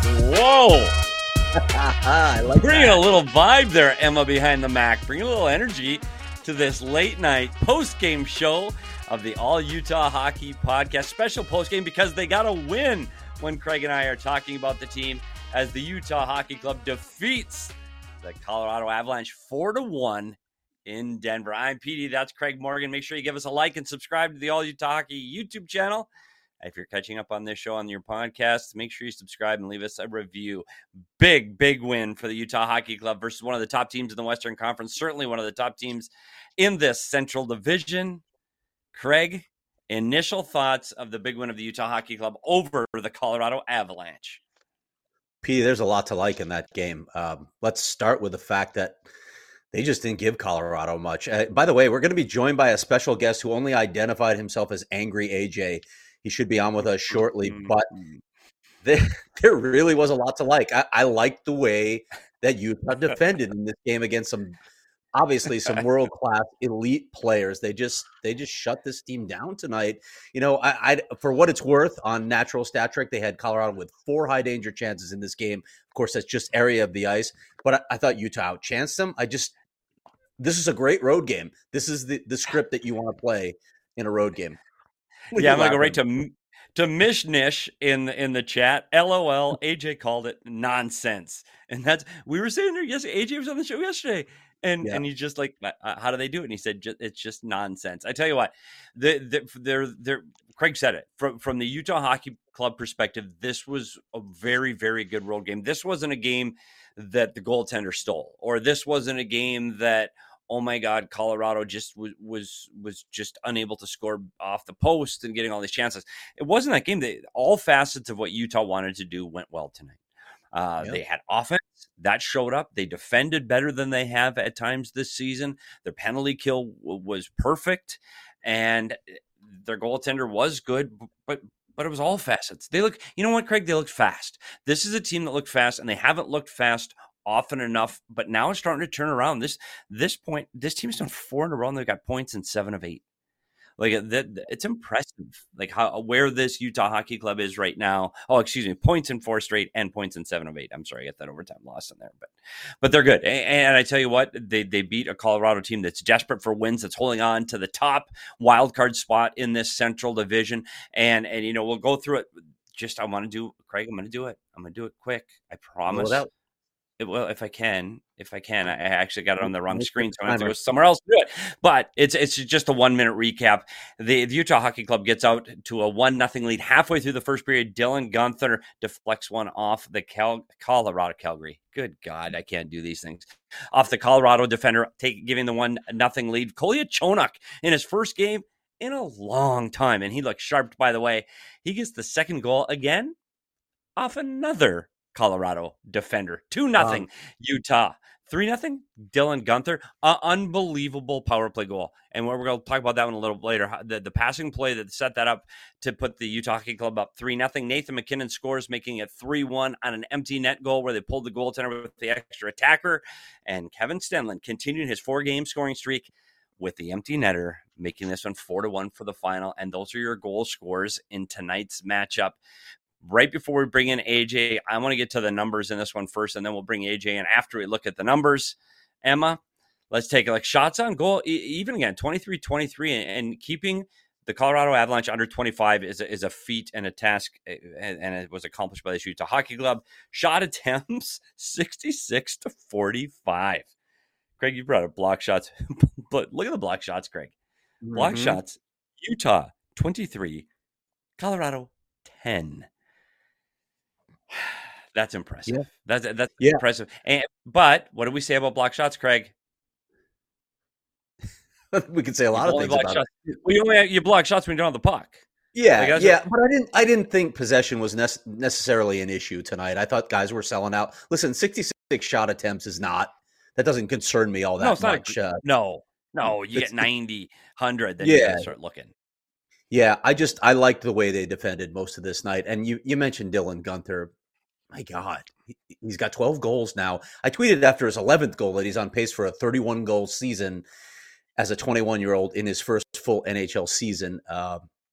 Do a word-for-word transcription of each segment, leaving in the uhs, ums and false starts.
Whoa! I like Bringing that. a little vibe there, Emma behind the Mac. Bringing a little energy to this late night post-game show of the All Utah Hockey Podcast. Special post-game because they got a win when Craig and I are talking about the team as the Utah Hockey Club defeats the Colorado Avalanche four to one in Denver. I'm P D. That's Craig Morgan. Make sure you give us a like and subscribe to the All Utah Hockey YouTube channel. If you're catching up on this show on your podcast, make sure you subscribe and leave us a review. Big, big win for the Utah Hockey Club versus one of the top teams in the Western Conference. Certainly one of the top teams in this Central Division. Craig, initial thoughts of the big win of the Utah Hockey Club over the Colorado Avalanche. P, there's a lot to like in that game. Um, let's start with the fact that they just didn't give Colorado much. Uh, by the way, we're going to be joined by a special guest who only identified himself as Angry A J. He should be on with us shortly, but there, there really was a lot to like. I, I liked the way that Utah defended in this game against some, obviously some world-class elite players. They just they just shut this team down tonight. You know, I, I for what it's worth, on natural stat trick, they had Colorado with four high danger chances in this game. Of course, that's just area of the ice. But I, I thought Utah outchanced them. I just this is a great road game. This is the, the script that you want to play in a road game. What yeah, I'm going to go right to to Mishnish in the, in the chat. L O L, A J called it nonsense. And that's, we were saying there yesterday, A J was on the show yesterday. And yeah. and he's just like, uh, how do they do it? And he said, it's just nonsense. I tell you what, the, the, they're, they're, Craig said it. From, from the Utah Hockey Club perspective, this was a very, very good road game. This wasn't a game that the goaltender stole, or this wasn't a game that, oh my God, Colorado just was was was just unable to score off the post and getting all these chances. It wasn't that game. That all facets of what Utah wanted to do went well tonight. Uh, yep. They had offense that showed up. They defended better than they have at times this season. Their penalty kill w- was perfect, and their goaltender was good, but but it was all facets. They look, you know what, Craig? They looked fast. This is a team that looked fast, and they haven't looked fast often enough, but now it's starting to turn around. This this point, this team's done four in a row, and they've got points in seven of eight. Like that, it's impressive. Like how where this Utah Hockey Club is right now. Oh, excuse me, points in four straight and points in seven of eight. I'm sorry, I got that overtime loss in there, but but they're good. And, and I tell you what, they they beat a Colorado team that's desperate for wins, that's holding on to the top wild card spot in this Central Division. And and you know we'll go through it. Just I want to do, Craig. I'm going to do it. I'm going to do it quick. I promise. Well, It, well, if I can, if I can, I actually got it on the wrong screen, so I have to go somewhere else to do it. But it's it's just a one minute recap. The, the Utah Hockey Club gets out to a one nothing lead halfway through the first period. Dylan Guenther deflects one off the Cal- Colorado Calgary. Good God, I can't do these things. Off the Colorado defender, take giving the one nothing lead. Kolyachonok in his first game in a long time, and he looks sharp. By the way, he gets the second goal again off another Colorado defender. two nothing um, Utah. three nothing Dylan Guenther. Uh, unbelievable power play goal. And we're going to talk about that one a little later. The, the passing play that set that up to put the Utah Hockey Club up three nothing. Nathan MacKinnon scores, making it three one on an empty net goal where they pulled the goaltender with the extra attacker. And Kevin Stenlund continued his four-game scoring streak with the empty netter, making this one four to one for the final. And those are your goal scores in tonight's matchup. Right before we bring in A J, I want to get to the numbers in this one first, and then we'll bring A J in after we look at the numbers. Emma, let's take it like shots on goal. Even again, twenty-three twenty-three, and keeping the Colorado Avalanche under twenty-five is a, is a feat and a task, and it was accomplished by the Utah Hockey Club. Shot attempts, sixty-six to forty-five. Craig, you brought up block shots, but look at the block shots, Craig. Block mm-hmm. shots, Utah, twenty-three, Colorado, ten. That's impressive. Yeah. That's that's yeah. impressive. And but what do we say about block shots, Craig? We could say a lot of things about shots. it. Well, you only have, you block shots when you don't have the puck. Yeah, like, yeah. But I didn't I didn't think possession was ne- necessarily an issue tonight. I thought guys were selling out. Listen, sixty-six shot attempts is not. That doesn't concern me all that no, it's much. Not, uh, no, no. You get ninety, one hundred, then yeah. you gotta start looking. Yeah, I just I liked the way they defended most of this night. And you you mentioned Dylan Guenther. My God, he, he's got twelve goals now. I tweeted after his eleventh goal that he's on pace for a thirty-one goal season as a twenty-one-year-old in his first full N H L season. Uh,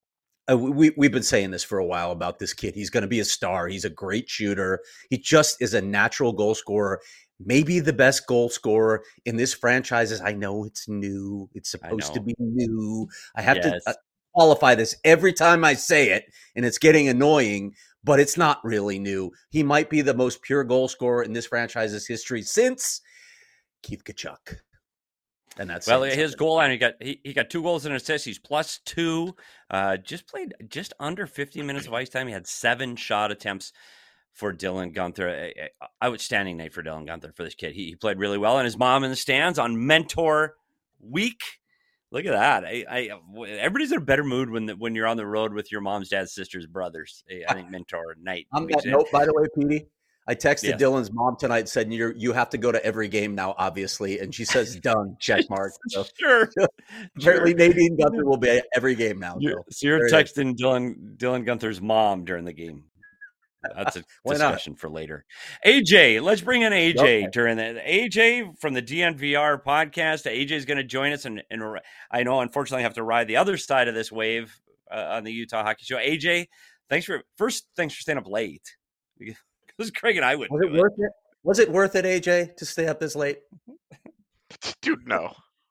Uh, we, we've been saying this for a while about this kid. He's going to be a star. He's a great shooter. He just is a natural goal scorer. Maybe the best goal scorer in this franchise. Is I know it's new. It's supposed to be new. I have yes. to uh, qualify this every time I say it, and it's getting annoying, but it's not really new. He might be the most pure goal scorer in this franchise's history since Keith Tkachuk. And that's well, his something. goal line. He got he, he got two goals and assists. He's plus two. Uh, just played just under fifty minutes of ice time. He had seven shot attempts for Dylan Guenther. Outstanding night for Dylan Guenther for this kid. He, he played really well. And his mom in the stands on Mentor Week. Look at that. I, I everybody's in a better mood when the, when you're on the road with your mom's, dad's, sisters, brothers. I think Mentor night. On that note, by the way, Petey, I texted yes. Dylan's mom tonight and said, you you have to go to every game now, obviously. And she says, done, check mark. So, sure. Apparently, sure. Nadine Guenther will be at every game now. You're, so, so you're texting Dylan Dylan Guenther's mom during the game. That's a discussion not? for later. A J, let's bring in A J okay. during the A J from the D N V R podcast. A J is going to join us. And, and I know, unfortunately, I have to ride the other side of this wave uh, on the Utah Hockey Show. A J, thanks for first, thanks for staying up late. Because Craig and I would. Was it worth it? Was it worth it, A J, to stay up this late? Dude, no.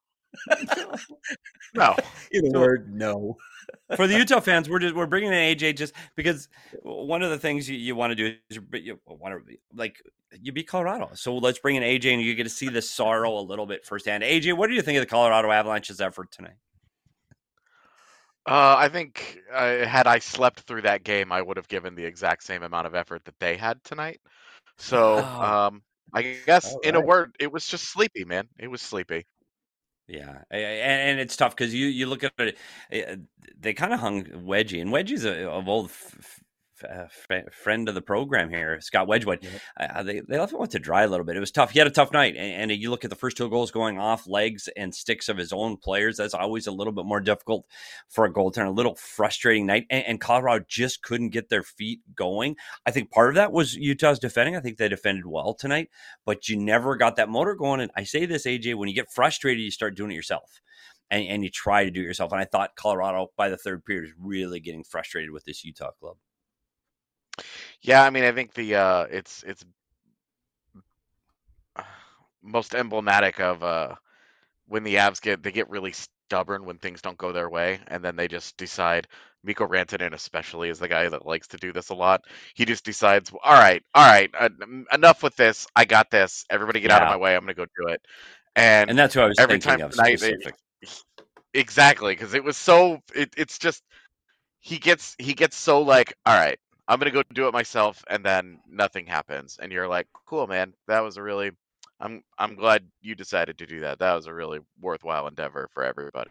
no. In a so, word, no. For the Utah fans, we're just we're bringing in A J just because one of the things you, you want to do is you want to like you beat Colorado. So let's bring in A J and you get to see the sorrow a little bit firsthand. A J, what do you think of the Colorado Avalanche's effort tonight? Uh, I think uh, had I slept through that game, I would have given the exact same amount of effort that they had tonight. So oh. um, I guess right. in a word, it was just sleepy, man. It was sleepy. Yeah, and it's tough because you, you look at it, they kind of hung Wedgie, and Wedgie's a, a old f- f- friend of the program here, Scott Wedgwood. Yeah. Uh, they, they left him with to dry a little bit. It was tough. He had a tough night, and, and you look at the first two goals going off legs and sticks of his own players. That's always a little bit more difficult for a goaltender, a little frustrating night, and, and Colorado just couldn't get their feet going. I think part of that was Utah's defending. I think they defended well tonight, but you never got that motor going. And I say this, A J, when you get frustrated, you start doing it yourself. And, and you try to do it yourself. And I thought Colorado, by the third period, was really getting frustrated with this Utah club. Yeah, I mean, I think the uh, it's it's most emblematic of uh, when the Avs get they get really stubborn when things don't go their way, and then they just decide. Mikko Rantanen especially is the guy that likes to do this a lot. He just decides, all right, all right, uh, enough with this. I got this. Everybody get yeah. out of my way. I'm going to go do it. And and that's what I was every thinking time of tonight, specific. They, exactly, because it was so. It, it's just he gets he gets so like, all right, I'm gonna go do it myself, and then nothing happens, and you're like, cool, man, that was a really. I'm I'm glad you decided to do that. That was a really worthwhile endeavor for everybody.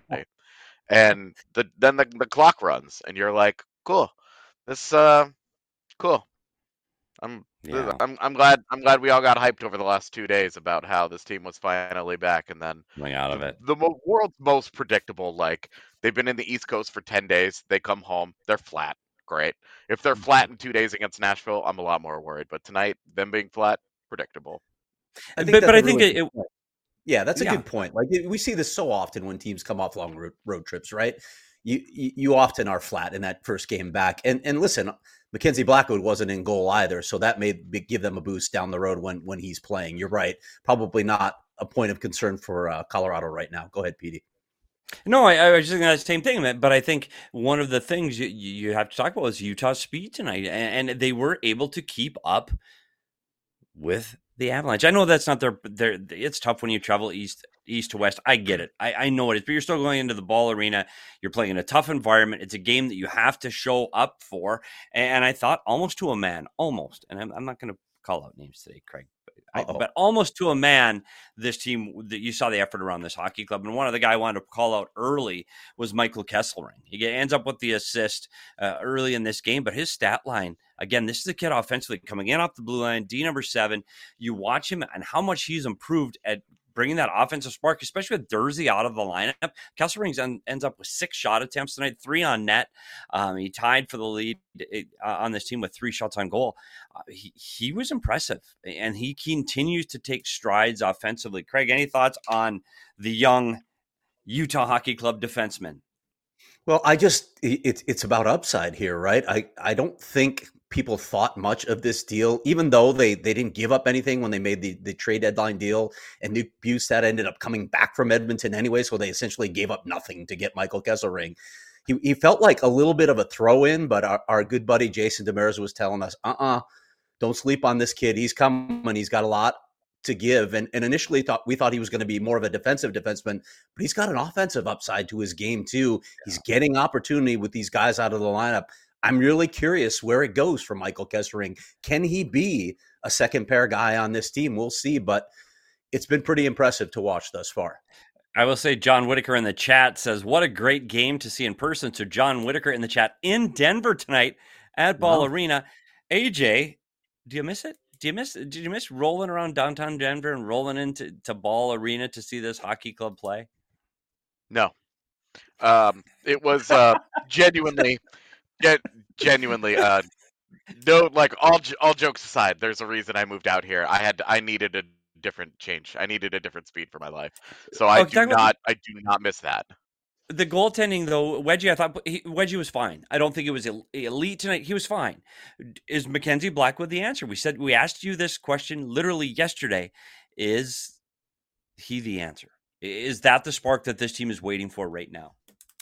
And the then the the clock runs, and you're like, cool, this uh, cool. I'm yeah. I'm I'm glad I'm glad we all got hyped over the last two days about how this team was finally back, and then coming out of it. The, the world's most predictable. Like they've been in the East Coast for ten days. They come home, they're flat. Great. If they're flat in two days against Nashville, I'm a lot more worried. But tonight, them being flat, predictable. I think but but I think really it, it yeah, that's a yeah. good point. Like we see this so often when teams come off long road, road trips, right? You, you you often are flat in that first game back. And and listen, Mackenzie Blackwood wasn't in goal either, so that may be, give them a boost down the road when when he's playing. You're right. Probably not a point of concern for uh, Colorado right now. Go ahead, Petey. No, I, I was just thinking that same thing, but I think one of the things you, you have to talk about is Utah's speed tonight, and, and they were able to keep up with the Avalanche. I know that's not their, their it's tough when you travel east east to west. I get it. I, I know it is, but you're still going into the Ball Arena. You're playing in a tough environment. It's a game that you have to show up for. And I thought almost to a man, almost, and I'm, I'm not going to call out names today, Craig, I, but almost to a man, this team, that you saw the effort around this hockey club. And one of the guys I wanted to call out early was Michael Kesselring. He ends up with the assist uh, early in this game, but his stat line, again, this is a kid offensively coming in off the blue line, D number seven. You watch him and how much he's improved at bringing that offensive spark, especially with Durzi out of the lineup. Kesselring en- ends up with six shot attempts tonight, three on net. Um, he tied for the lead uh, on this team with three shots on goal. Uh, he, he was impressive, and he continues to take strides offensively. Craig, any thoughts on the young Utah Hockey Club defenseman? Well, I just it's it's about upside here, right? I I don't think people thought much of this deal, even though they they didn't give up anything when they made the the trade deadline deal, and Nick Bjugstad ended up coming back from Edmonton anyway, so they essentially gave up nothing to get Michael Kesselring. He he felt like a little bit of a throw in, but our, our good buddy Jason Demers was telling us, uh uh-uh, uh, don't sleep on this kid. He's coming. He's got a lot to give. And, and initially thought we thought he was going to be more of a defensive defenseman, but he's got an offensive upside to his game too. Yeah. He's getting opportunity with these guys out of the lineup. I'm really curious where it goes for Michael Kesselring. Can he be a second pair guy on this team? We'll see, but it's been pretty impressive to watch thus far. I will say John Whitaker in the chat says, what a great game to see in person. So John Whitaker in the chat in Denver tonight at Ball wow. Arena. A J, do you miss it? Do you miss? Did you miss rolling around downtown Denver and rolling into to Ball Arena to see this hockey club play? No, um, it was uh, genuinely, ge- genuinely. Uh, no, like all all jokes aside, there's a reason I moved out here. I had I needed a different change. I needed a different speed for my life. So I oh, do not. About- I do not miss that. The goaltending, though, Wedgie, I thought he, Wedgie was fine. I don't think it was elite tonight. He was fine. Is Mackenzie Blackwood the answer? We said we asked you this question literally yesterday. Is he the answer? Is that the spark that this team is waiting for right now?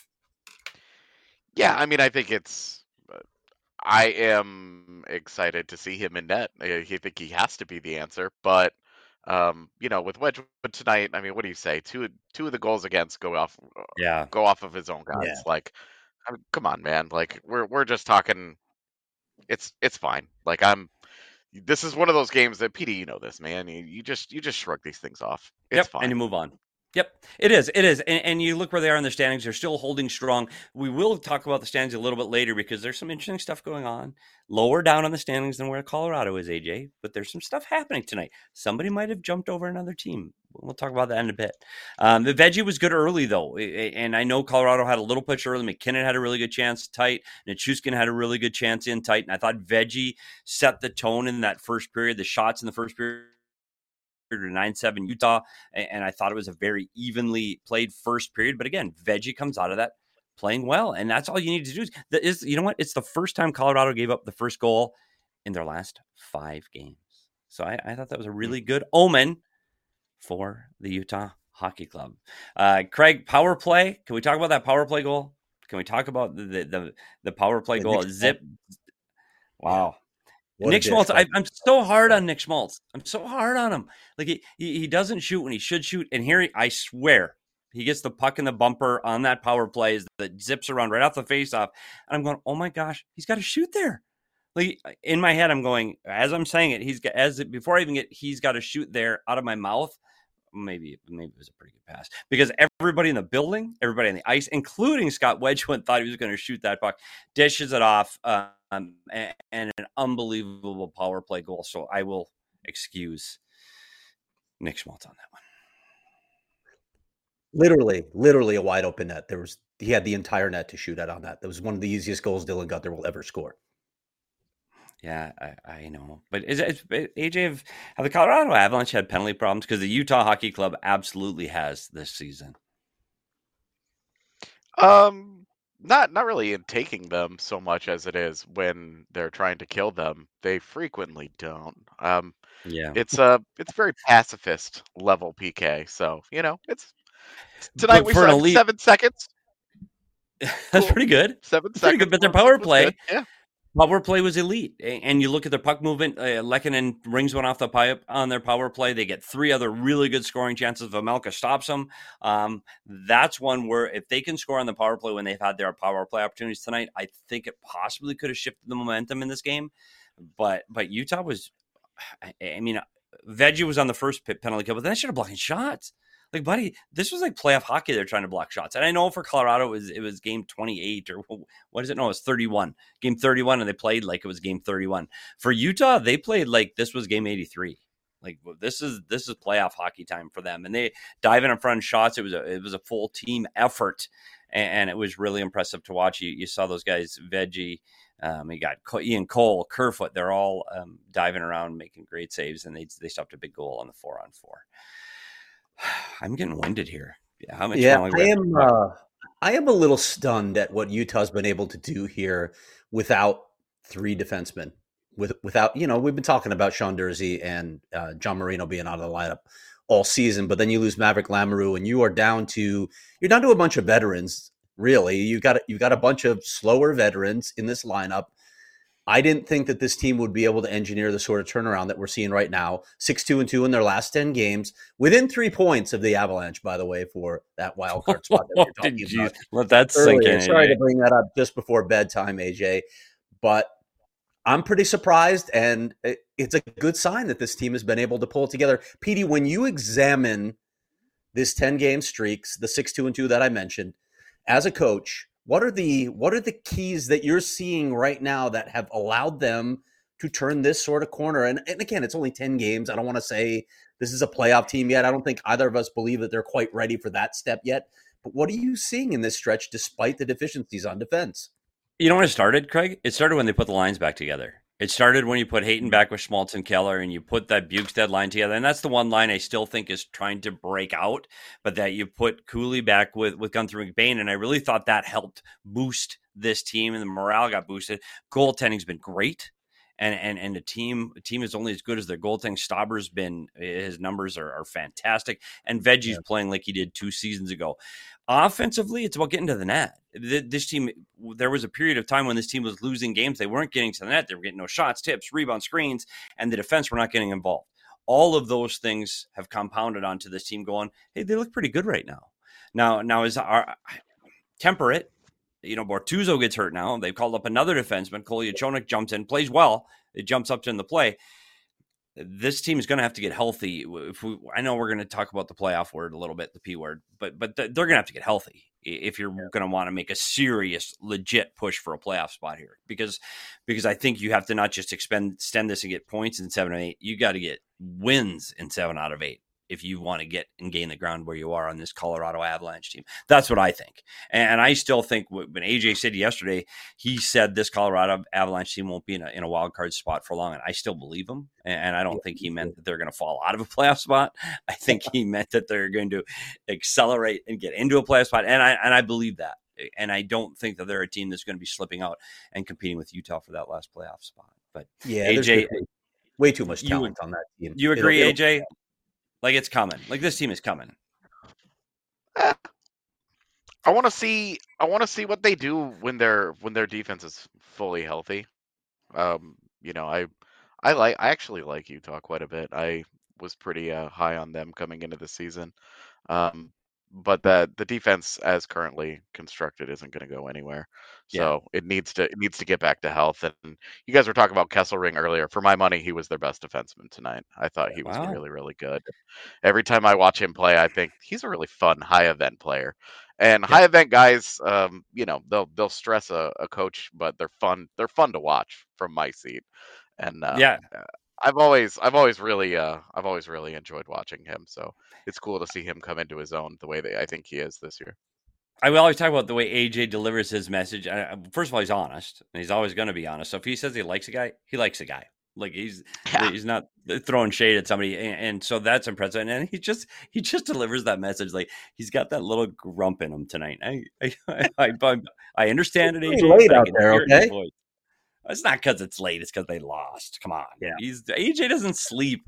Yeah, I mean, I think it's. I am excited to see him in net. I think he has to be the answer, but. Um, you know, with Wedgwood tonight, I mean, what do you say? Two two of the goals against go off, yeah, go off of his own guys. Yeah. Like, I mean, come on, man. Like, we're we're just talking. It's it's fine. Like, I'm. This is one of those games that P D, you know this, man. You, you just you just shrug these things off. It's yep, fine, and you move on. Yep, it is. It is. And, and you look where they are in the standings. They're still holding strong. We will talk about the standings a little bit later because there's some interesting stuff going on lower down on the standings than where Colorado is, A J. But there's some stuff happening tonight. Somebody might have jumped over another team. We'll talk about that in a bit. Um, the Veggie was good early, though. And I know Colorado had a little push early. McKinnon had a really good chance tight. Nichushkin had a really good chance in tight. And I thought Veggie set the tone in that first period. The shots in the first period to nine seven Utah, and I thought it was a very evenly played first period. But again, Veggie comes out of that playing well, and that's all you need to do. Is, is you know what? It's the first time Colorado gave up the first goal in their last five games. So I, I thought that was a really good omen for the Utah Hockey Club. Uh, Craig, power play. Can we talk about that power play goal? Can we talk about the the the, the power play the goal? Zip. Wow. What Nick Schmaltz, I, I'm so hard on Nick Schmaltz. I'm so hard on him. Like he, he he doesn't shoot when he should shoot. And here, he, I swear, he gets the puck in the bumper on that power play that zips around right off the faceoff. And I'm going, oh my gosh, he's got to shoot there. Like in my head, I'm going, as I'm saying it, he's got, as before I even get, he's got to shoot there out of my mouth. Maybe, maybe it was a pretty good pass because everybody in the building, everybody on the ice, including Scott Wedgwood, thought he was going to shoot that puck, dishes it off, um, and, and an unbelievable power play goal. So I will excuse Nick Schmaltz on that one. Literally, literally a wide open net. There was he had the entire net to shoot at on that. That was one of the easiest goals Dylan Gunther will ever score. Yeah, I, I know. But is it, A J, have, have the Colorado Avalanche had penalty problems? Because the Utah Hockey Club absolutely has this season. Um, not not really in taking them so much as it is when they're trying to kill them. They frequently don't. Um, yeah, it's a it's very pacifist level P K. So you know, it's tonight but we saw elite... seven seconds. That's cool. Pretty good. Seven That's seconds. Pretty good. But their power play. Good. Yeah. Power play was elite, and you look at their puck movement. Uh, Lehkonen rings one off the pipe on their power play. They get three other really good scoring chances. Vejmelka stops them. Um, that's one where if they can score on the power play when they've had their power play opportunities tonight, I think it possibly could have shifted the momentum in this game. But but Utah was, I, I mean, Veggie was on the first penalty kill, but then they should have blocked shots. Like, buddy, this was like playoff hockey. They're trying to block shots. And I know for Colorado, it was, it was game twenty-eight or what is it? No, it was thirty-one. Game thirty-one, and they played like it was game thirty-one. For Utah, they played like this was game eighty-three. Like, this is this is playoff hockey time for them. And they dive in front of shots. It was a, it was a full team effort, and, and it was really impressive to watch. You, you saw those guys, Veggie, um, you got Ian Cole, Kerfoot. They're all um, diving around, making great saves, and they, they stopped a big goal on the four-on-four. I'm getting winded here. Yeah, how much? Yeah, I am. Uh, I am a little stunned at what Utah's been able to do here without three defensemen. With without, you know, we've been talking about Sean Durzi and uh, John Marino being out of the lineup all season, but then you lose Maverick Lamoureux, and you are down to you're down to a bunch of veterans. Really, you got you got a bunch of slower veterans in this lineup. I didn't think that this team would be able to engineer the sort of turnaround that we're seeing right now. Six two and two in their last ten games, within three points of the Avalanche, by the way, for that wild card spot that we were talking Did you about. let that sink earlier. in? Sorry A J. to bring that up just before bedtime, A J, but I'm pretty surprised, and it's a good sign that this team has been able to pull it together. Petey, when you examine this ten-game streaks, the six two and two that I mentioned, as a coach, what are the what are the keys that you're seeing right now that have allowed them to turn this sort of corner? And, and again, it's only ten games. I don't want to say this is a playoff team yet. I don't think either of us believe that they're quite ready for that step yet. But what are you seeing in this stretch despite the deficiencies on defense? You know when it started, Craig? It started when they put the lines back together. It started when you put Hayton back with Schmaltz and Keller, and you put that Bukestad line together. And that's the one line I still think is trying to break out, but that you put Cooley back with, with Gunther McBain. And I really thought that helped boost this team, and the morale got boosted. Goaltending's been great. And and and the team the team is only as good as their goaltending. Stauber's been, his numbers are, are fantastic. And Veggie's yeah. playing like he did two seasons ago. Offensively, it's about getting to the net. This team, there was a period of time when this team was losing games. They weren't getting to the net. They were getting no shots, tips, rebound, screens, and the defense were not getting involved. All of those things have compounded onto this team going, hey, they look pretty good right now. Now, now is our temper it. You know, Bortuzzo gets hurt now. They've called up another defenseman. Kolyachonok jumps in, plays well. It jumps up in the play. This team is going to have to get healthy. If we, I know we're going to talk about the playoff word a little bit, the P word, but but they're going to have to get healthy if you're yeah. going to want to make a serious, legit push for a playoff spot here. Because because I think you have to not just expend, extend this and get points in seven and eight. You got to get wins in seven out of eight if you want to get and gain the ground where you are on this Colorado Avalanche team. That's what I think. And I still think when A J said yesterday, he said this Colorado Avalanche team won't be in a, in a wild card spot for long. And I still believe him. And I don't think he meant that they're going to fall out of a playoff spot. I think he meant that they're going to accelerate and get into a playoff spot. And I, and I believe that. And I don't think that they're a team that's going to be slipping out and competing with Utah for that last playoff spot. But yeah, A J, way too much talent you, on that team. You agree, it'll, it'll, A J? Like it's coming. Like this team is coming. Eh, I want to see. I want to see what they do when their when their defense is fully healthy. Um, you know, I, I like. I actually like Utah quite a bit. I was pretty uh, high on them coming into the season. Um, but the the defense as currently constructed isn't going to go anywhere. So yeah. it needs to it needs to get back to health. And you guys were talking about Kesselring earlier. For my money, he was their best defenseman tonight. I thought he was wow. really, really good. Every time I watch him play, I think he's a really fun high event player. And yeah. high event guys, um, you know, they'll they'll stress a, a coach, but they're fun. They're fun to watch from my seat. And uh, yeah. I've always, I've always really, uh, I've always really enjoyed watching him. So it's cool to see him come into his own the way that I think he is this year. I will always talk about the way A J delivers his message. First of all, he's honest, and he's always going to be honest. So if he says he likes a guy, he likes a guy. Like he's yeah. he's not throwing shade at somebody, and, and so that's impressive. And he just he just delivers that message. Like he's got that little grump in him tonight. I I I, I, I understand it. A J, late out there, okay? It's not because it's late. It's because they lost. Come on. Yeah. He's A J doesn't sleep.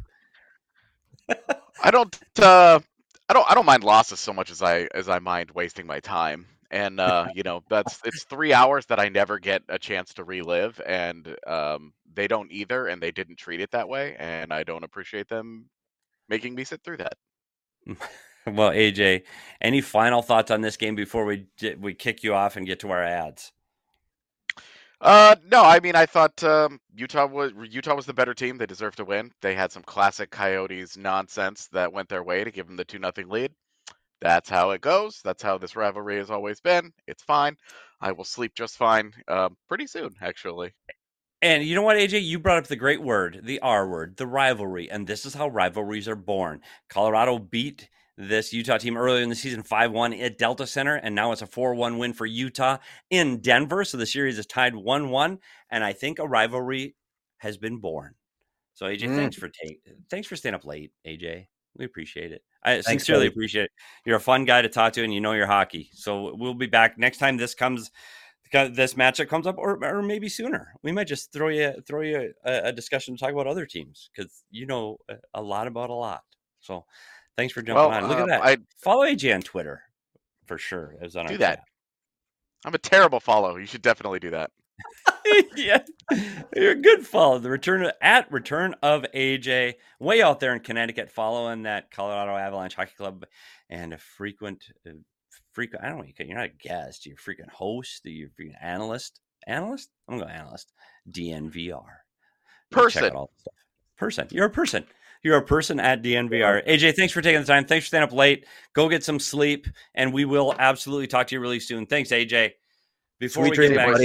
I don't. Uh, I don't. I don't mind losses so much as I as I mind wasting my time. And uh, you know, that's it's three hours that I never get a chance to relive, and um, they don't either, and they didn't treat it that way, and I don't appreciate them making me sit through that. Well, A J, any final thoughts on this game before we we kick you off and get to our ads? Uh, no, I mean, I thought um, Utah was Utah was the better team. They deserved to win. They had some classic Coyotes nonsense that went their way to give them the two nothing lead. That's how it goes. That's how this rivalry has always been. It's fine. I will sleep just fine uh, pretty soon, actually. And you know what, A J? You brought up the great word, the R word, the rivalry. And this is how rivalries are born. Colorado beat this Utah team earlier in the season five one at Delta Center, and now it's a four one win for Utah in Denver. So the series is tied one one, and I think a rivalry has been born. So A J, mm. thanks for take, thanks for staying up late, A J. We appreciate it. I Thanks, sincerely buddy. appreciate it. You're a fun guy to talk to, and you know your hockey. So we'll be back next time this comes, this matchup comes up, or or maybe sooner. We might just throw you throw you a, a discussion to talk about other teams because you know a lot about a lot. So thanks for jumping Well, on. Look um, at that. I Follow A J on Twitter for sure. It was on do our that. chat. I'm a terrible follow. You should definitely do that. Yeah, you're a good follow. The return of, at return of A J, way out there in Connecticut, following that Colorado Avalanche Hockey Club, and a frequent, uh, frequent. I don't know. You're not a guest. You're a frequent host. You're a frequent analyst. Analyst. I'm going analyst. D N V R. Person. Check out all the stuff. Person. You're a person. You're a person at D N V R. A J, thanks for taking the time. Thanks for staying up late. Go get some sleep, and we will absolutely talk to you really soon. Thanks, A J. Before Sweet we get dreams, back. buddy.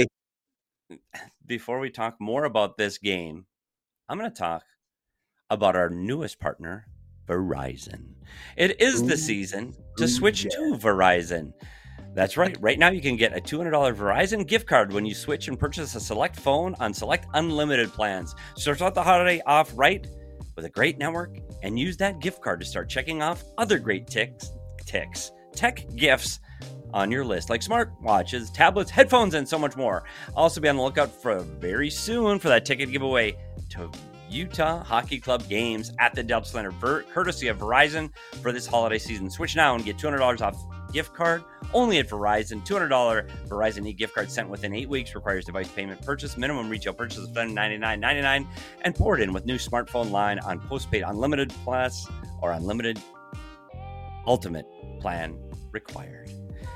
Before we talk more about this game, I'm going to talk about our newest partner, Verizon. It is the season to Ooh, switch yeah. to Verizon. That's right. Right now, you can get a two hundred dollars Verizon gift card when you switch and purchase a select phone on select unlimited plans. So start the holiday off right with a great network and use that gift card to start checking off other great ticks, ticks, tech gifts on your list, like smartwatches, tablets, headphones, and so much more. Also be on the lookout for very soon for that ticket giveaway to Utah Hockey Club games at the Delta Center, Ver- courtesy of Verizon for this holiday season. Switch now and get two hundred dollars off gift card only at Verizon. two hundred dollars Verizon e-gift card sent within eight weeks. Requires device payment purchase. Minimum retail purchase of ninety-nine ninety-nine and poured in with new smartphone line on postpaid unlimited plus or unlimited ultimate plan required.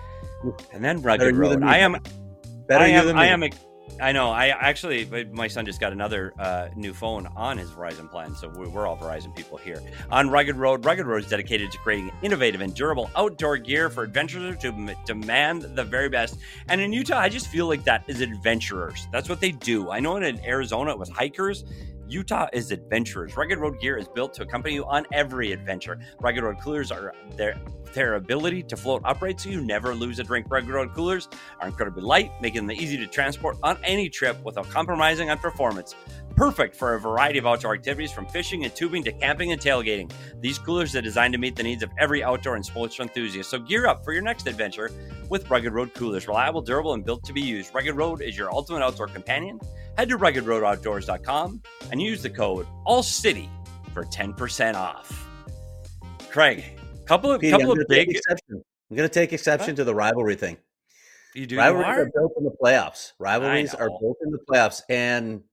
And then Rugged Road. I am, Better I you am, than I me. am, I know. I actually, my son just got another uh, new phone on his Verizon plan, so we're all Verizon people here. On Rugged Road, Rugged Road is dedicated to creating innovative and durable outdoor gear for adventurers to m- demand the very best. And in Utah, I just feel like that is adventurers. That's what they do. I know in Arizona it was hikers. Utah is adventurers. Rugged Road gear is built to accompany you on every adventure. Rugged Road coolers are their their ability to float upright so you never lose a drink. Rugged Road coolers are incredibly light, making them easy to transport on any trip without compromising on performance. Perfect for a variety of outdoor activities from fishing and tubing to camping and tailgating. These coolers are designed to meet the needs of every outdoor and sports enthusiast. So gear up for your next adventure with Rugged Road coolers. Reliable, durable, and built to be used. Rugged Road is your ultimate outdoor companion. Head to rugged road outdoors dot com and use the code ALLCITY for ten percent off. Craig, couple of Petey, couple I'm of gonna take big. exception. I'm going to take exception What? to the rivalry thing. You do. Rivalries You are are? built in the playoffs. Rivalries are know. built in the playoffs, and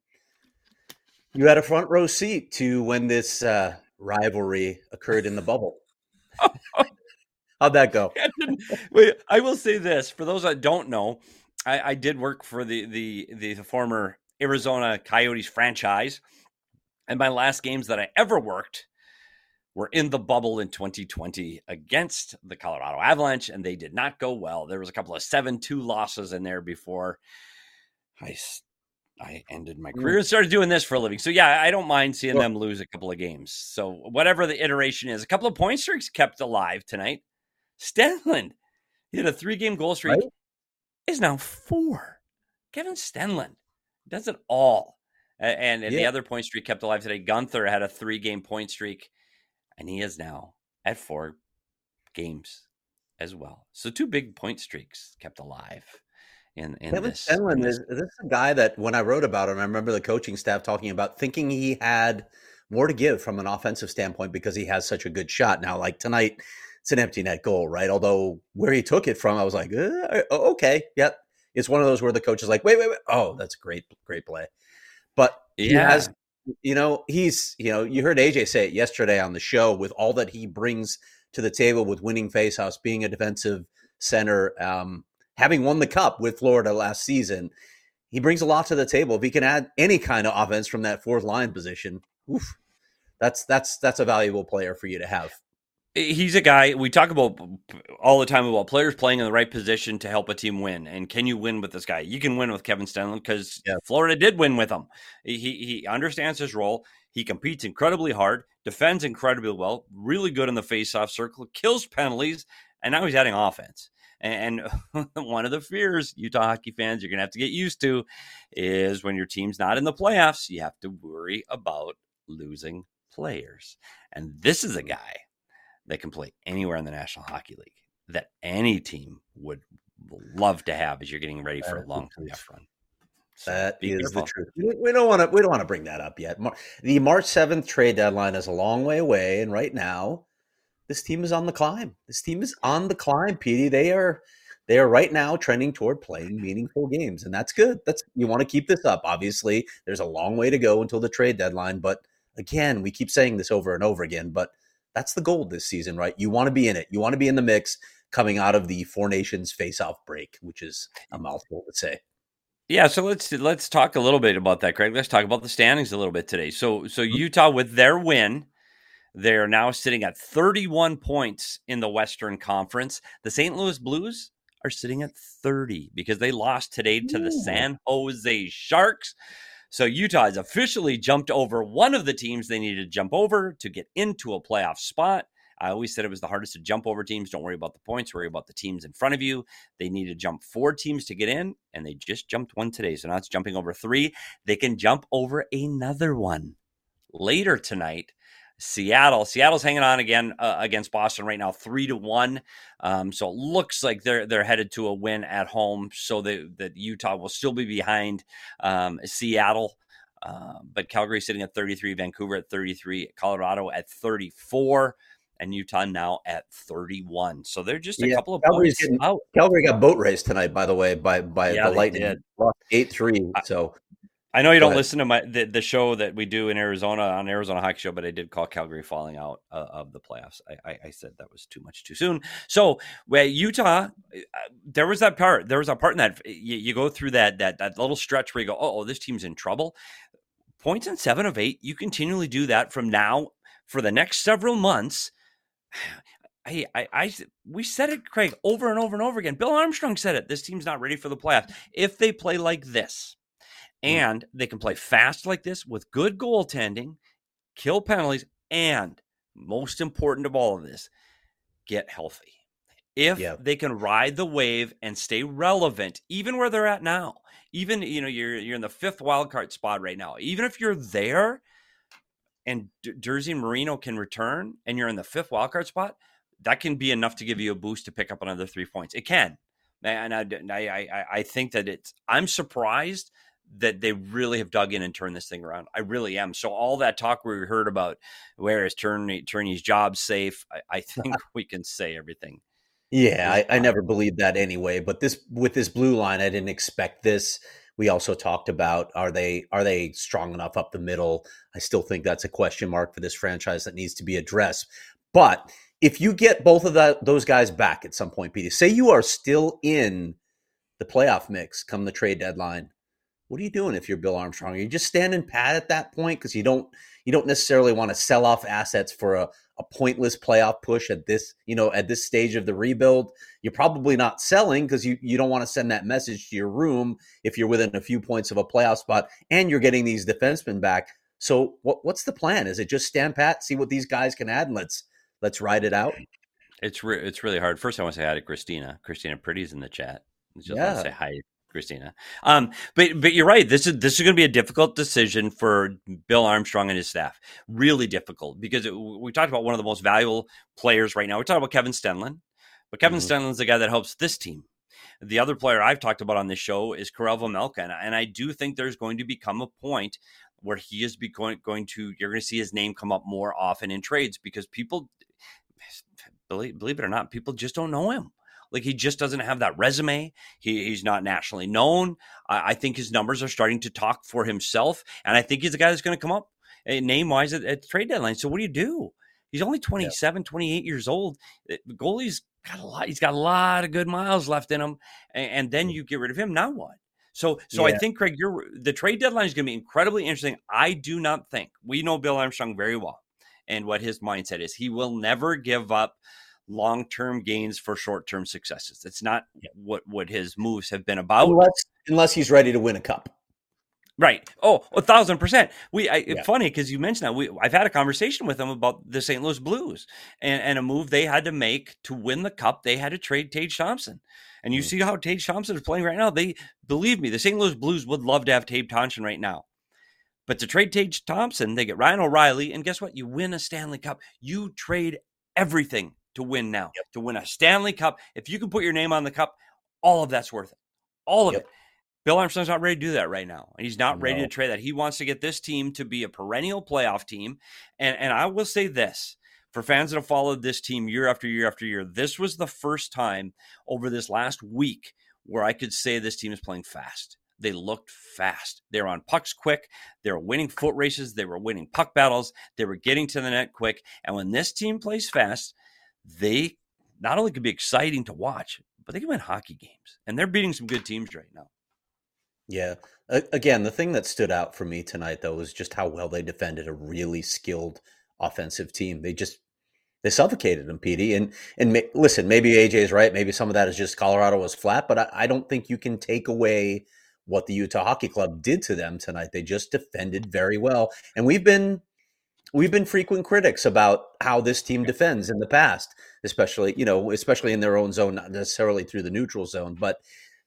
you had a front row seat to when this uh, rivalry occurred in the bubble. How'd that go? I didn't- Wait, I will say this for those that don't know, I, I did work for the, the the the former Arizona Coyotes franchise, and my last games that I ever worked were in the bubble in twenty twenty against the Colorado Avalanche, and they did not go well. There was a couple of seven two losses in there before I I ended my career and started doing this for a living. So yeah, I don't mind seeing Sure. them lose a couple of games. So whatever the iteration is, a couple of point streaks kept alive tonight. Stenlund, he had a three-game goal streak, Right? is now four. Kevin Stenlund does it all. A- And, and the Yeah. other point streak kept alive today. Gunther had a three-game point streak, and he is now at four games as well. So two big point streaks kept alive in, in Kevin this. in Stenlund this is this is a guy that when I wrote about him, I remember the coaching staff talking about thinking he had more to give from an offensive standpoint because he has such a good shot. Now, like tonight, it's an empty net goal, right? Although where he took it from, I was like, uh, okay, yep. It's one of those where the coach is like, wait, wait, wait. Oh, that's a great, great play. But he Yeah. has, you know, he's, you know, you heard A J say it yesterday on the show with all that he brings to the table with winning faceoffs, being a defensive center, um, having won the cup with Florida last season. He brings a lot to the table. If he can add any kind of offense from that fourth line position, oof, that's that's that's a valuable player for you to have. He's a guy we talk about all the time about players playing in the right position to help a team win. And can you win with this guy? You can win with Kevin Stenlund because Yeah. Florida did win with him. He he understands his role. He competes incredibly hard, defends incredibly well, really good in the faceoff circle, kills penalties, and now he's adding offense. And one of the fears Utah hockey fans you're going to have to get used to is when your team's not in the playoffs, you have to worry about losing players. And this is a guy they can play anywhere in the National Hockey League that any team would love to have as you're getting ready for a long playoff run. So that is careful. The truth. We don't want to. We don't want to bring that up yet. The March seventh trade deadline is a long way away, and right now, this team is on the climb. This team is on the climb, Petey. They are. They are right now trending toward playing meaningful games, and that's good. That's you want to keep this up. Obviously, there's a long way to go until the trade deadline, but again, we keep saying this over and over again. But that's the goal this season, right? You want to be in it. You want to be in the mix coming out of the Four Nations face-off break, which is a mouthful to say. Yeah, so let's let's talk a little bit about that, Craig. Let's talk about the standings a little bit today. So, so Utah with their win. They are now sitting at thirty-one points in the Western Conference. The Saint Louis Blues are sitting at thirty because they lost today to the San Jose Sharks. So Utah has officially jumped over one of the teams they needed to jump over to get into a playoff spot. I always said it was the hardest to jump over teams. Don't worry about the points. Worry about the teams in front of you. They need to jump four teams to get in, and they just jumped one today. So now it's jumping over three. They can jump over another one later tonight. Seattle. Seattle's hanging on again uh, against Boston right now, three to one. Um, so it looks like they're they're headed to a win at home. So that that Utah will still be behind um, Seattle, uh, but Calgary sitting at thirty-three, Vancouver at thirty-three, Colorado at thirty-four, and Utah now at thirty-one. So they're just a yeah, couple of Calgary's points getting, out. Calgary got boat raced tonight, by the way, by by yeah, the Lightning, eight three. So. I know you don't listen to my the, the show that we do in Arizona on Arizona Hockey Show, but I did call Calgary falling out uh, of the playoffs. I, I, I said that was too much too soon. So, where Utah, uh, there was that part. There was a part in that you, you go through that that that little stretch where you go, oh, this team's in trouble. Points in seven of eight. You continually do that from now for the next several months. I, I, I, we said it, Craig, over and over and over again. Bill Armstrong said it. This team's not ready for the playoffs if they play like this. And they can play fast like this with good goaltending, kill penalties, and most important of all of this, get healthy. If yeah. they can ride the wave and stay relevant, even where they're at now, even, you know, you're you're in the fifth wildcard spot right now. Even if you're there and D- Jersey and Marino can return and you're in the fifth wildcard spot, that can be enough to give you a boost to pick up another three points. It can. And I, I, I, I think that it's, I'm surprised that they really have dug in and turned this thing around. I really am. So all that talk we heard about where is Turney, Turney's job safe, I, I think we can say everything. Yeah, I, I never believed that anyway. But this with this blue line, I didn't expect this. We also talked about are they are they strong enough up the middle? I still think that's a question mark for this franchise that needs to be addressed. But if you get both of that those guys back at some point, Peter, say you are still in the playoff mix come the trade deadline. What are you doing if you're Bill Armstrong? Are you just standing pat at that point because you don't you don't necessarily want to sell off assets for a, a pointless playoff push at this you know at this stage of the rebuild? You're probably not selling because you, you don't want to send that message to your room if you're within a few points of a playoff spot and you're getting these defensemen back. So what what's the plan? Is it just stand pat, see what these guys can add, and let's let's ride it out? It's re- it's really hard. First, I want to say hi to Christina. Christina Pretty's in the chat. Just yeah. want to say hi. Christina. Um, but but you're right. This is this is going to be a difficult decision for Bill Armstrong and his staff. Really difficult because it, we talked about one of the most valuable players right now. We talked about Kevin Stenlund, but Kevin mm-hmm. Stenlund's the guy that helps this team. The other player I've talked about on this show is Karel Vejmelka, and, and I do think there's going to become a point where he is be going, going to. You're going to see his name come up more often in trades because people, believe, believe it or not, people just don't know him. Like he just doesn't have that resume. He, he's not nationally known. I, I think his numbers are starting to talk for himself. And I think he's the guy that's going to come up uh, name-wise at, at trade deadline. So what do you do? He's only twenty-seven, yeah. twenty-eight years old. The goalie's got a lot. He's got a lot of good miles left in him. And, and then you get rid of him. Now what? So so yeah. I think, Craig, you're, the trade deadline is going to be incredibly interesting. I do not think. We know Bill Armstrong very well and what his mindset is. He will never give up long-term gains for short-term successes. It's not yeah. what, what his moves have been about. Unless, unless he's ready to win a cup. Right. Oh, a thousand percent. We, I, yeah. It's funny because you mentioned that we, I've had a conversation with him about the Saint Louis Blues and, and a move they had to make to win the cup. They had to trade Tage Thompson. And you mm. see how Tage Thompson is playing right now. They, believe me, the Saint Louis Blues would love to have Tage Thompson right now. But to trade Tage Thompson, they get Ryan O'Reilly. And guess what? You win a Stanley Cup. You trade everything to win now, yep. to win a Stanley Cup. If you can put your name on the cup, all of that's worth it. All of yep. it. Bill Armstrong's not ready to do that right now. And he's not no. ready to trade that. He wants to get this team to be a perennial playoff team. And, and I will say this, for fans that have followed this team year after year after year, this was the first time over this last week where I could say this team is playing fast. They looked fast. They were on pucks quick. They were winning foot races. They were winning puck battles. They were getting to the net quick. And when this team plays fast, they not only can be exciting to watch, but they can win hockey games. And they're beating some good teams right now. Yeah. Again, the thing that stood out for me tonight, though, was just how well they defended a really skilled offensive team. They just they suffocated them, Petey. And and ma- listen, maybe A J is right. Maybe some of that is just Colorado was flat, but I, I don't think you can take away what the Utah Hockey Club did to them tonight. They just defended very well. And we've been we've been frequent critics about how this team defends in the past, especially, you know, especially in their own zone, not necessarily through the neutral zone, but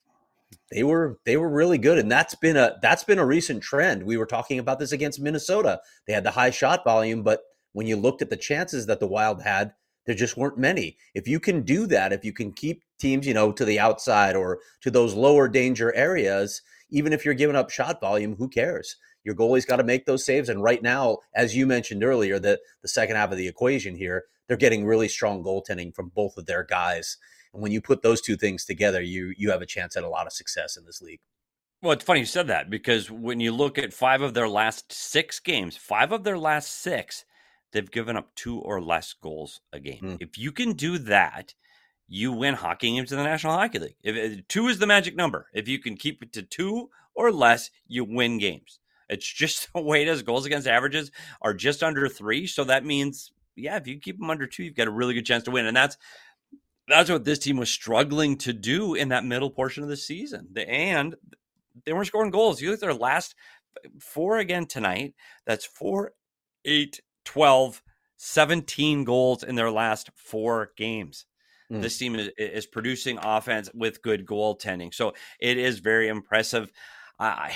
They were they were really good, and that's been a that's been a recent trend. We were talking about this against Minnesota. They had the high shot volume, but when you looked at the chances that the Wild had, there just weren't many. If you can do that, if you can keep teams, you know, to the outside or to those lower danger areas, even if you're giving up shot volume, who cares? Your goalie's got to make those saves. And right now, as you mentioned earlier, the, the second half of the equation here, they're getting really strong goaltending from both of their guys. And when you put those two things together, you you have a chance at a lot of success in this league. Well, it's funny you said that, because when you look at five of their last six games, five of their last six, they've given up two or less goals a game. Mm. If you can do that, you win hockey games in the National Hockey League. If, if two is the magic number. If you can keep it to two or less, you win games. It's just the way it is. Goals against averages are just under three. So that means, yeah, if you keep them under two, you've got a really good chance to win. And that's that's what this team was struggling to do in that middle portion of the season. And they weren't scoring goals. You look at their last four again tonight. That's four, eight, twelve, seventeen goals in their last four games. Mm. This team is, is producing offense with good goaltending. So it is very impressive. I,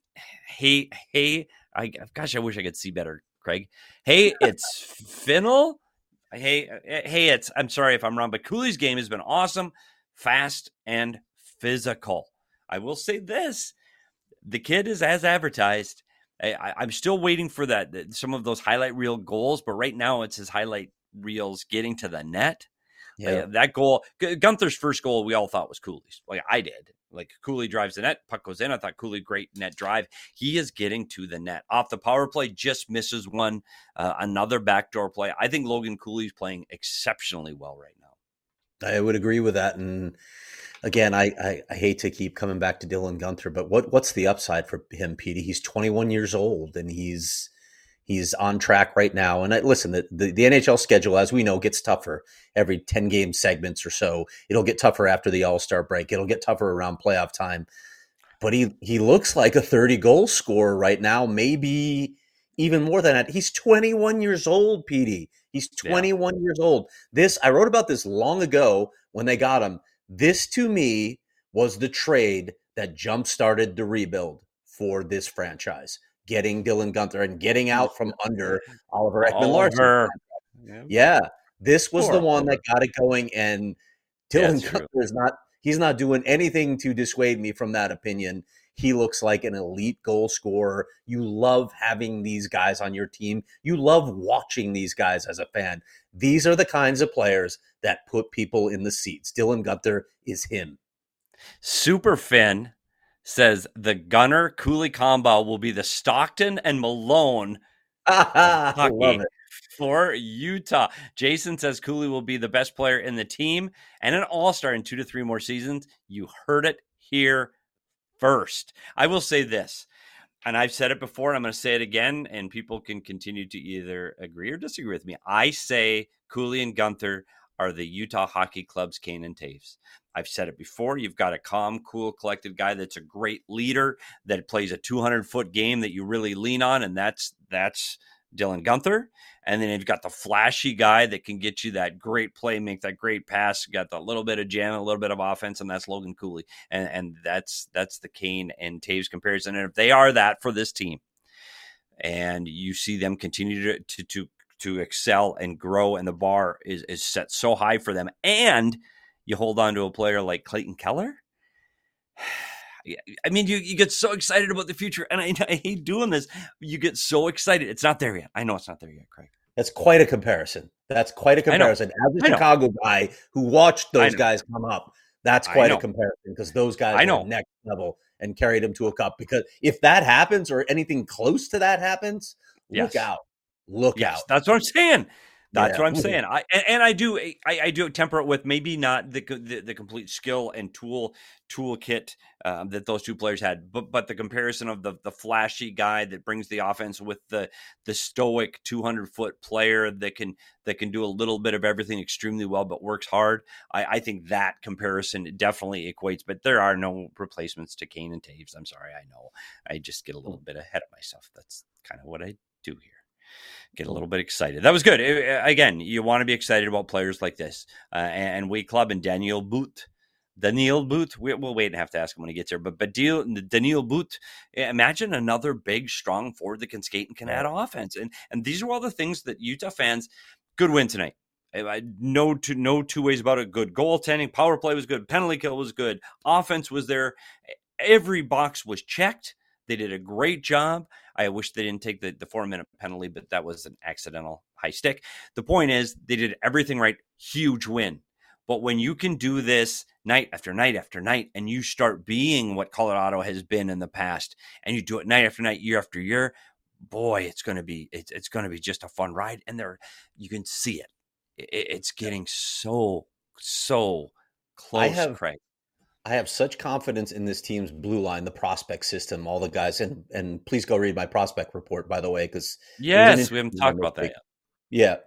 hey, hey, I, gosh, I wish I could see better, Craig. Hey, it's Finnell. Hey, hey, it's, I'm sorry if I'm wrong, but Cooley's game has been awesome, fast, and physical. I will say this. The kid is as advertised. I, I'm still waiting for that, some of those highlight reel goals, but right now it's his highlight reels getting to the net. Yeah. Like that goal, Gunther's first goal, we all thought was Cooley's. Like I did. Like Cooley drives the net, puck goes in. I thought Cooley, great net drive. He is getting to the net. Off the power play, just misses one. Uh, another backdoor play. I think Logan Cooley's playing exceptionally well right now. I would agree with that. And again, I, I, I hate to keep coming back to Dylan Gunther, but what what's the upside for him, Petey? He's twenty-one years old, and he's he's on track right now. And I, listen, the, the, the N H L schedule, as we know, gets tougher every ten-game segments or so. It'll get tougher after the All-Star break. It'll get tougher around playoff time. But he he looks like a thirty-goal scorer right now, maybe even more than that. He's twenty-one years old, Petey. He's twenty-one yeah. years old. This, I wrote about this long ago when they got him. This, to me, was the trade that jump-started the rebuild for this franchise. Getting Dylan Gunther and getting out from under Oliver Ekman-Larsson. Yeah. yeah, this was Poor the one Oliver. that got it going, and Dylan yeah, Gunther is not – he's not doing anything to dissuade me from that opinion. He looks like an elite goal scorer. You love having these guys on your team. You love watching these guys as a fan. These are the kinds of players that put people in the seats. Dylan Gunther is him. Super Finn says the Gunner Cooley combo will be the Stockton and Malone I love it. For Utah. Jason says Cooley will be the best player in the team and an all-star in two to three more seasons. You heard it here first. I will say this, and I've said it before, and I'm going to say it again, and people can continue to either agree or disagree with me. I say Cooley and Gunther are the Utah Hockey Club's Kane and Taves. I've said it before. You've got a calm, cool, collected guy that's a great leader that plays a two hundred foot game that you really lean on, and that's that's Dylan Gunther. And then you've got the flashy guy that can get you that great play, make that great pass. You got the little bit of jam, a little bit of offense, and that's Logan Cooley. And and that's that's the Kane and Taves comparison. And if they are that for this team, and you see them continue to to, to to excel and grow, and the bar is is set so high for them. And you hold on to a player like Clayton Keller. I mean, you, you get so excited about the future, and I, I hate doing this. You get so excited. It's not there yet. I know it's not there yet, Craig. That's quite a comparison. That's quite a comparison. As a Chicago guy who watched those guys come up, that's quite a comparison, because those guys I know. were next level and carried him to a cup. Because if that happens, or anything close to that happens, yes. look out. Look yes, out. That's what I'm saying. That's yeah. what I'm saying. I and, and I do I, I do temper it with maybe not the the, the complete skill and tool toolkit um, that those two players had, but but the comparison of the the flashy guy that brings the offense with the the stoic two hundred foot player that can that can do a little bit of everything extremely well but works hard. I, I think that comparison definitely equates. But there are no replacements to Kane and Taves. I'm sorry. I know. I just get a little bit ahead of myself. That's kind of what I do here. Get a little bit excited. That was good. It, again, you want to be excited about players like this. Uh, and, and Wake Club and Daniel Booth. Daniel Booth, we, we'll wait and have to ask him when he gets here. But, but Daniel Booth, imagine another big, strong forward that can skate and can add offense. And and these are all the things that Utah fans, good win tonight. I, no, two, no two ways about it. Good goaltending. Power play was good. Penalty kill was good. Offense was there. Every box was checked. They did a great job. I wish they didn't take the, the four-minute penalty, but that was an accidental high stick. The point is, they did everything right. Huge win. But when you can do this night after night after night, and you start being what Colorado has been in the past, and you do it night after night, year after year, boy, it's going to be it's, it's going to be just a fun ride. And there, you can see it. it it's getting so so close, I have, Craig. I have such confidence in this team's blue line, the prospect system, all the guys. And and please go read my prospect report, by the way, because yes, we haven't talked about that yet. Yeah.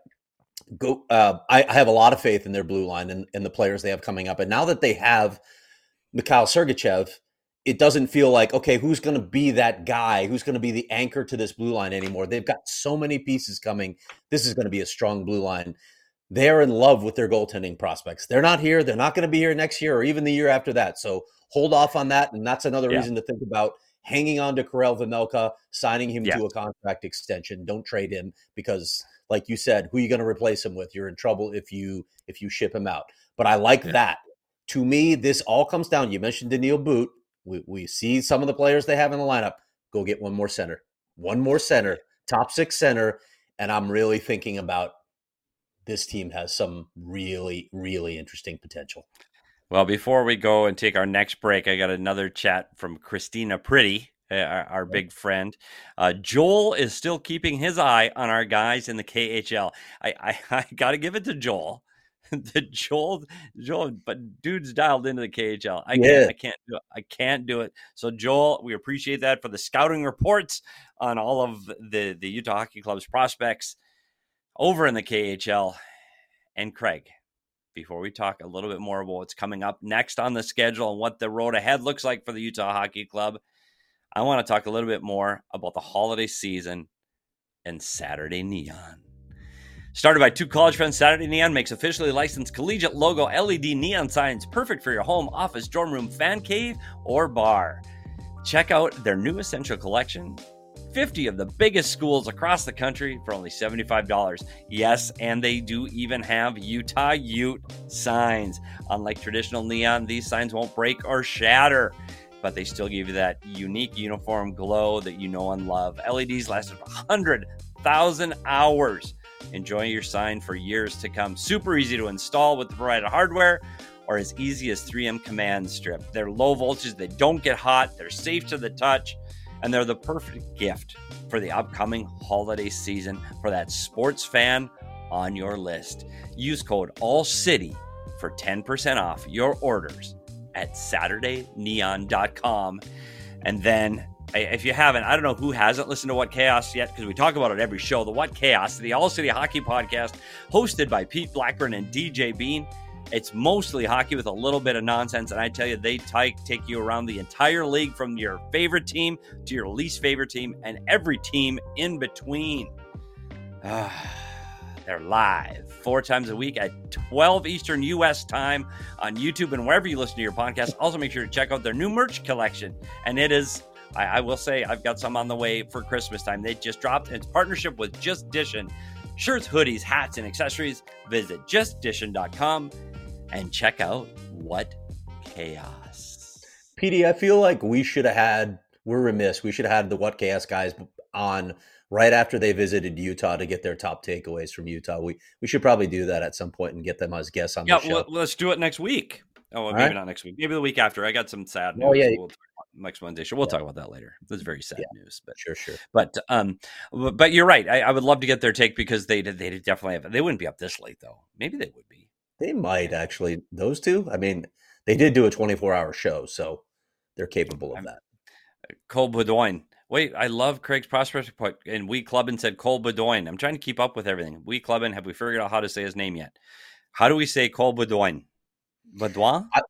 Go. Uh, I, I have a lot of faith in their blue line and, and the players they have coming up. And now that they have Mikhail Sergachev, it doesn't feel like, okay, who's going to be that guy? Who's going to be the anchor to this blue line anymore? They've got so many pieces coming. This is going to be a strong blue line. They're in love with their goaltending prospects. They're not here. They're not going to be here next year or even the year after that. So hold off on that. And that's another yeah. reason to think about hanging on to Karel Vejmelka, signing him yeah. to a contract extension. Don't trade him because, like you said, who are you going to replace him with? You're in trouble if you if you ship him out. But I like yeah. that. To me, this all comes down. You mentioned Daniil Booth. We, we see some of the players they have in the lineup. Go get one more center. One more center. Top six center. And I'm really thinking about this team has some really, really interesting potential. Well, before we go and take our next break, I got another chat from Christina Pretty, our, our big friend. Uh, Joel is still keeping his eye on our guys in the K H L. I, I, I got to give it to Joel. the Joel, Joel, but dude's dialed into the K H L. I yeah. can't, I can't do it. I can't do it. So Joel, we appreciate that for the scouting reports on all of the, the Utah Hockey Club's prospects over in the K H L. And Craig, before we talk a little bit more about what's coming up next on the schedule and what the road ahead looks like for the Utah Hockey Club, I want to talk a little bit more about the holiday season and Saturday Neon. Started by two college friends, Saturday Neon makes officially licensed collegiate logo L E D neon signs perfect for your home, office, dorm room, fan cave, or bar. Check out their new essential collection, fifty of the biggest schools across the country for only seventy-five dollars. Yes, and they do even have Utah Ute signs. Unlike traditional neon, these signs won't break or shatter, but they still give you that unique uniform glow that you know and love. L E Ds lasted one hundred thousand hours. Enjoy your sign for years to come. Super easy to install with the provided hardware, or as easy as three M command strip. They're low voltage, they don't get hot, they're safe to the touch, and they're the perfect gift for the upcoming holiday season for that sports fan on your list. Use code ALLCITY for ten percent off your orders at Saturday Neon dot com. And then, if you haven't, I don't know who hasn't listened to What Chaos yet, because we talk about it every show. The What Chaos, the All City Hockey Podcast, hosted by Pete Blackburn and D J Bean. It's mostly hockey with a little bit of nonsense, and I tell you, they t- take you around the entire league from your favorite team to your least favorite team and every team in between. Uh, they're live four times a week at twelve Eastern U S time on YouTube and wherever you listen to your podcast. Also, make sure to check out their new merch collection, and it is, I, I will say, I've got some on the way for Christmas time. They just dropped, and it's partnership with Just Dishin'. shirts, hoodies, hats, and accessories, visit just dishin dot com and check out What Chaos. P D, I feel like we should have had, we're remiss, we should have had the What Chaos guys on right after they visited Utah to get their top takeaways from Utah. We we should probably do that at some point and get them as guests on yeah, the show. Well, let's do it next week. Oh, well, maybe right. not next week. Maybe the week after. I got some sad news. Oh, yeah. We'll talk about next Wednesday. Sure, we'll yeah. talk about that later. That's very sad yeah. news. But sure, sure. But um, but you're right. I, I would love to get their take because they they definitely have. They wouldn't be up this late though. Maybe they would be. They might actually. Those two. I mean, they did do a twenty-four hour show, so they're capable of I'm, that. Cole Bedoin. Wait, I love Craig's prospect point. And we clubbing said Cole Bedoin. I'm trying to keep up with everything. We clubbing. Have we figured out how to say his name yet? How do we say Cole Bedoin? Baudouin? I,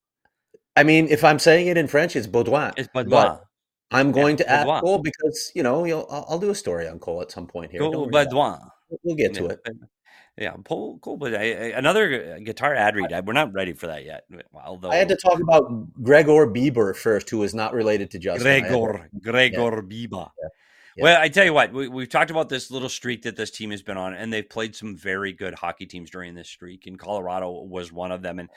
I mean, if I'm saying it in French, it's Baudouin. It's Baudouin. I'm going yeah, to ask Cole because, you know, you'll, I'll, I'll do a story on Cole at some point here. Cole Baudouin. We'll get to yeah. it. Yeah, Cole, Cole but another guitar ad read. We're not ready for that yet. Although I had to talk about Gregor Bieber first, who is not related to Justin. Gregor, to, Gregor yeah. Bieber. Yeah. Yeah. Well, I tell you what, we, we've talked about this little streak that this team has been on, and they've played some very good hockey teams during this streak, and Colorado was one of them. And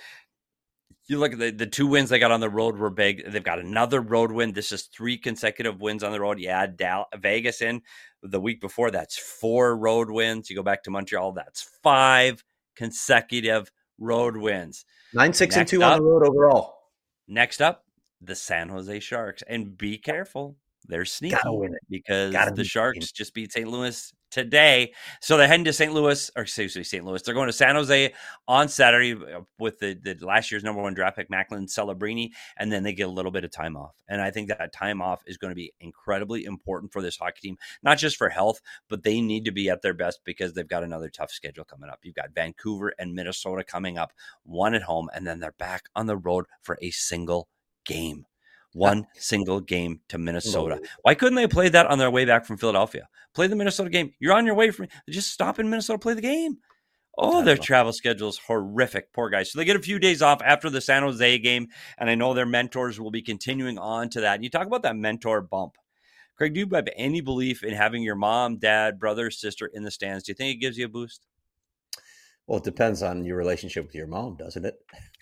you look at the, the two wins they got on the road were big. They've got another road win. This is three consecutive wins on the road. You add Dal- Vegas in the week before. That's four road wins. You go back to Montreal. That's five consecutive road wins. Nine, six, next and two up, on the road overall. Next up, the San Jose Sharks. And be careful. They're sneaky because Gotta the Sharks just beat Saint Louis today. So they're heading to Saint Louis, or excuse me, Saint Louis. They're going to San Jose on Saturday with the, the last year's number one draft pick, Macklin Celebrini, and then they get a little bit of time off. And I think that time off is going to be incredibly important for this hockey team, not just for health, but they need to be at their best because they've got another tough schedule coming up. You've got Vancouver and Minnesota coming up, one at home, and then they're back on the road for a single game. One single game to Minnesota. Why couldn't they play that on their way back from Philadelphia? Play the Minnesota game. You're on your way from just stop in Minnesota, play the game. Oh, their travel schedule is horrific. Poor guys. So they get a few days off after the San Jose game, and I know their mentors will be continuing on to that. And you talk about that mentor bump. Craig, do you have any belief in having your mom, dad, brother, sister in the stands? Do you think it gives you a boost? Well, it depends on your relationship with your mom, doesn't it?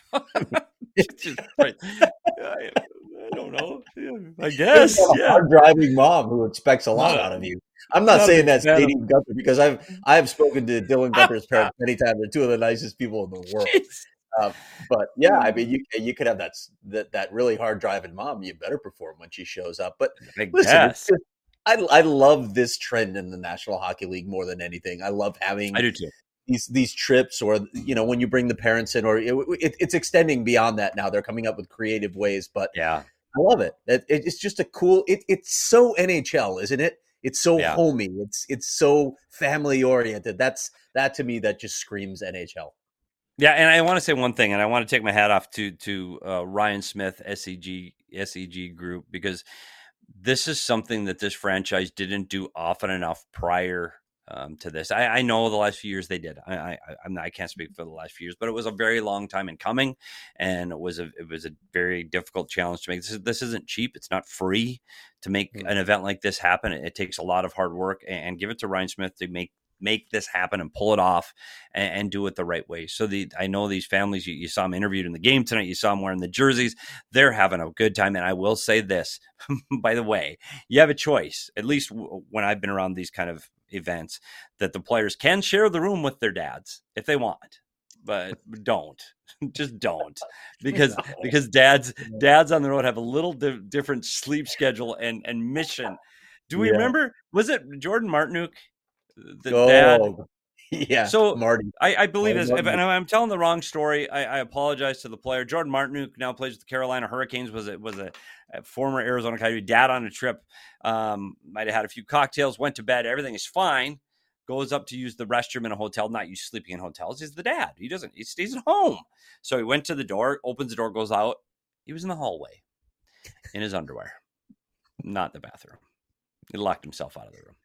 right. I, I don't know. Yeah, I guess. A yeah. hard driving mom who expects a lot no, out of you. I'm not saying that's dating Gunther because I've I've spoken to Dylan Gunther's parents many times. They're two of the nicest people in the world. Uh, but yeah, I mean, you you could have that that that really hard driving mom. You better perform when she shows up. But I listen, it's just, I I love this trend in the National Hockey League more than anything. I love having. I do too. These these trips, or you know, when you bring the parents in, or it, it, it's extending beyond that now. They're coming up with creative ways, but yeah, I love it. it it's just a cool. It, it's so N H L, isn't it? It's so yeah. homey. It's it's so family oriented. That's that to me. That just screams N H L. Yeah, and I want to say one thing, and I want to take my hat off to to uh, Ryan Smith, S E G S E G Group, because this is something that this franchise didn't do often enough prior. Um, to this, I, I know the last few years they did. I, I I'm not, I can't speak for the last few years, but it was a very long time in coming, and it was a it was a very difficult challenge to make. This is, this isn't cheap. It's not free to make mm-hmm. an event like this happen. It, it takes a lot of hard work, and, and give it to Ryan Smith to make make this happen and pull it off and, and do it the right way. So the I know these families. You, you saw them interviewed in the game tonight. You saw them wearing the jerseys. They're having a good time, and I will say this, by the way, you have a choice. At least w- when I've been around these kind of events, that the players can share the room with their dads if they want, but don't just don't because because dads dads on the road have a little di- different sleep schedule and and mission. Do we yeah. remember, was it Jordan Martinook, the oh, dad? Yeah. So Marty, I, I believe this. If, and I'm telling the wrong story, I, I apologize to the player. Jordan Martinook now plays with the Carolina Hurricanes. Was it was a, a former Arizona Coyote, dad on a trip. Um, might have had a few cocktails, went to bed. Everything is fine. Goes up to use the restroom in a hotel. Not used sleeping in hotels. He's the dad. He doesn't. He stays at home. So he went to the door, opens the door, goes out. He was in the hallway in his underwear, not the bathroom. He locked himself out of the room.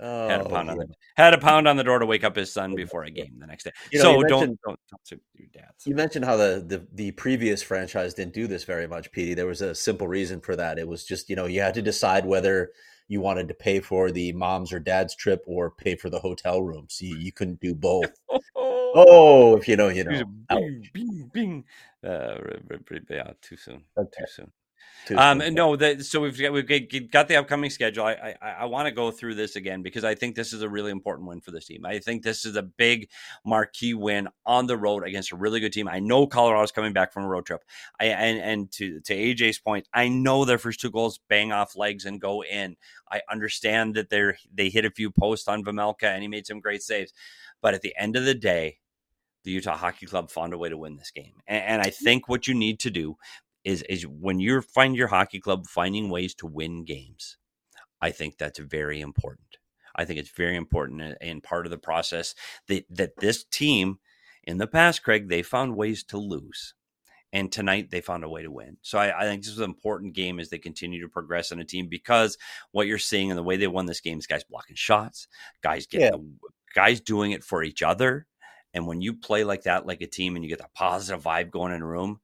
Oh, had a pound yeah. on the had a pound on the door to wake up his son before a game the next day. You know, so you don't, mentioned- don't don't sue your dads. You mentioned how the, the the previous franchise didn't do this very much, Petey. There was a simple reason for that. It was just, you know, you had to decide whether you wanted to pay for the mom's or dad's trip or pay for the hotel room. So you, you couldn't do both. Oh, if you know, you know. Bing, bing, bing. Uh, yeah, too soon. Okay. Too soon. Too Um, soon. no, that so we've got, we've got the upcoming schedule. I I, I want to go through this again because I think this is a really important win for this team. I think this is a big marquee win on the road against a really good team. I know Colorado's coming back from a road trip. I and and to to A J's point, I know their first two goals bang off legs and go in. I understand that they're they hit a few posts on Vejmelka and he made some great saves, but at the end of the day, the Utah Hockey Club found a way to win this game. And, and I think what you need to do is, is when you find your hockey club finding ways to win games, I think that's very important. I think it's very important and part of the process that, that this team in the past, Craig, they found ways to lose. And tonight they found a way to win. So I, I think this is an important game as they continue to progress in a team because what you're seeing and the way they won this game is guys blocking shots, guys getting yeah. the, guys doing it for each other. And when you play like that, like a team, and you get that positive vibe going in a room,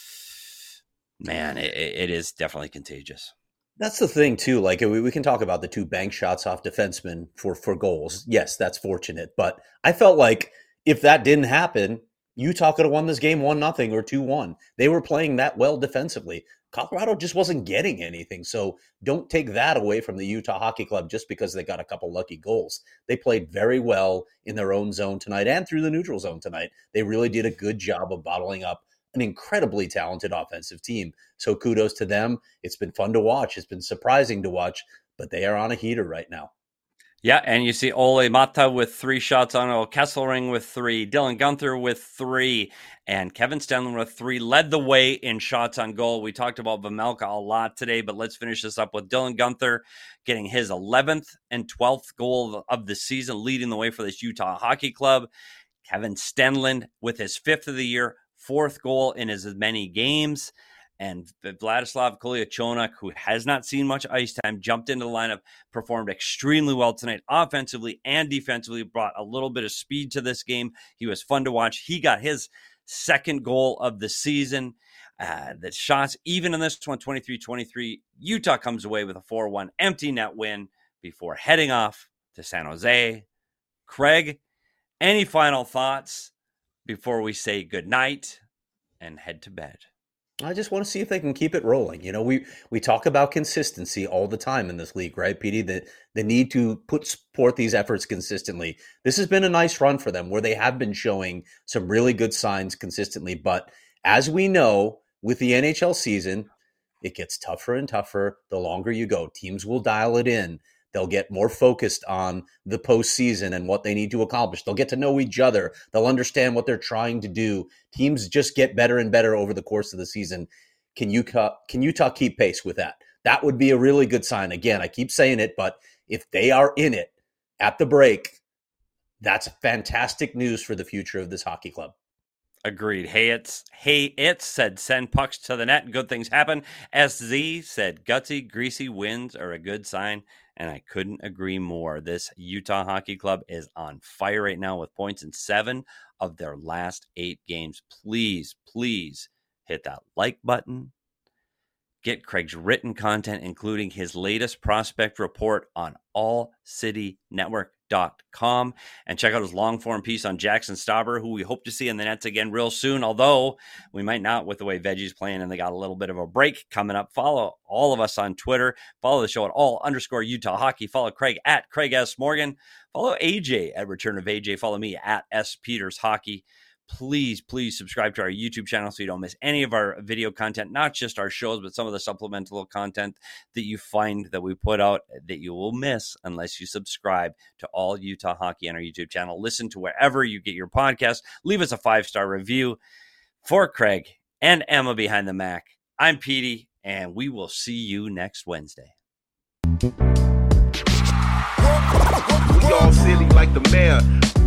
man, it, it is definitely contagious. That's the thing, too. Like, we, we can talk about the two bank shots off defensemen for, for goals. Yes, that's fortunate. But I felt like if that didn't happen, Utah could have won this game one nothing or two one. They were playing that well defensively. Colorado just wasn't getting anything. So don't take that away from the Utah Hockey Club just because they got a couple lucky goals. They played very well in their own zone tonight and through the neutral zone tonight. They really did a good job of bottling up an incredibly talented offensive team. So kudos to them. It's been fun to watch. It's been surprising to watch, but they are on a heater right now. Yeah, and you see Ole Mata with three shots on goal, Kesselring with three, Dylan Guenther with three, and Kevin Stenlund with three led the way in shots on goal. We talked about Vejmelka a lot today, but let's finish this up with Dylan Guenther getting his eleventh and twelfth goal of the season, leading the way for this Utah Hockey Club. Kevin Stenlund with his fifth of the year, fourth goal in as many games. And Vladislav Kolyachonok, who has not seen much ice time, jumped into the lineup, performed extremely well tonight, offensively and defensively, brought a little bit of speed to this game. He was fun to watch. He got his second goal of the season. Uh, the shots, even in this one, twenty-three twenty-three, Utah comes away with a four one empty net win before heading off to San Jose. Craig, any final thoughts before we say goodnight and head to bed? I just want to see if they can keep it rolling. You know, we, we talk about consistency all the time in this league, right, Petey? The, the need to put support these efforts consistently. This has been a nice run for them where they have been showing some really good signs consistently. But as we know, with the N H L season, it gets tougher and tougher the longer you go. Teams will dial it in. They'll get more focused on the postseason and what they need to accomplish. They'll get to know each other. They'll understand what they're trying to do. Teams just get better and better over the course of the season. Can Utah, can Utah keep pace with that? That would be a really good sign. Again, I keep saying it, but if they are in it at the break, that's fantastic news for the future of this hockey club. Agreed. Hey, it's hey, it's said send pucks to the net. Good things happen. S Z said gutsy, greasy wins are a good sign. And I couldn't agree more. This Utah Hockey Club is on fire right now with points in seven of their last eight games. Please, please hit that like button. Get Craig's written content, including his latest prospect report on all city network dot com. And check out his long-form piece on Jackson Stauber, who we hope to see in the nets again real soon, although we might not with the way Veggie's playing and they got a little bit of a break coming up. Follow all of us on Twitter. Follow the show at all underscore Utah Hockey. Follow Craig at Craig S. Morgan. Follow A J at Return of A J. Follow me at S. Peters Hockey. Please, please subscribe to our YouTube channel so you don't miss any of our video content, not just our shows, but some of the supplemental content that you find that we put out that you will miss unless you subscribe to All Utah Hockey on our YouTube channel. Listen to wherever you get your podcast. Leave us a five-star review. For Craig and Emma behind the Mac, I'm Petey, and we will see you next Wednesday. We all silly like the mayor.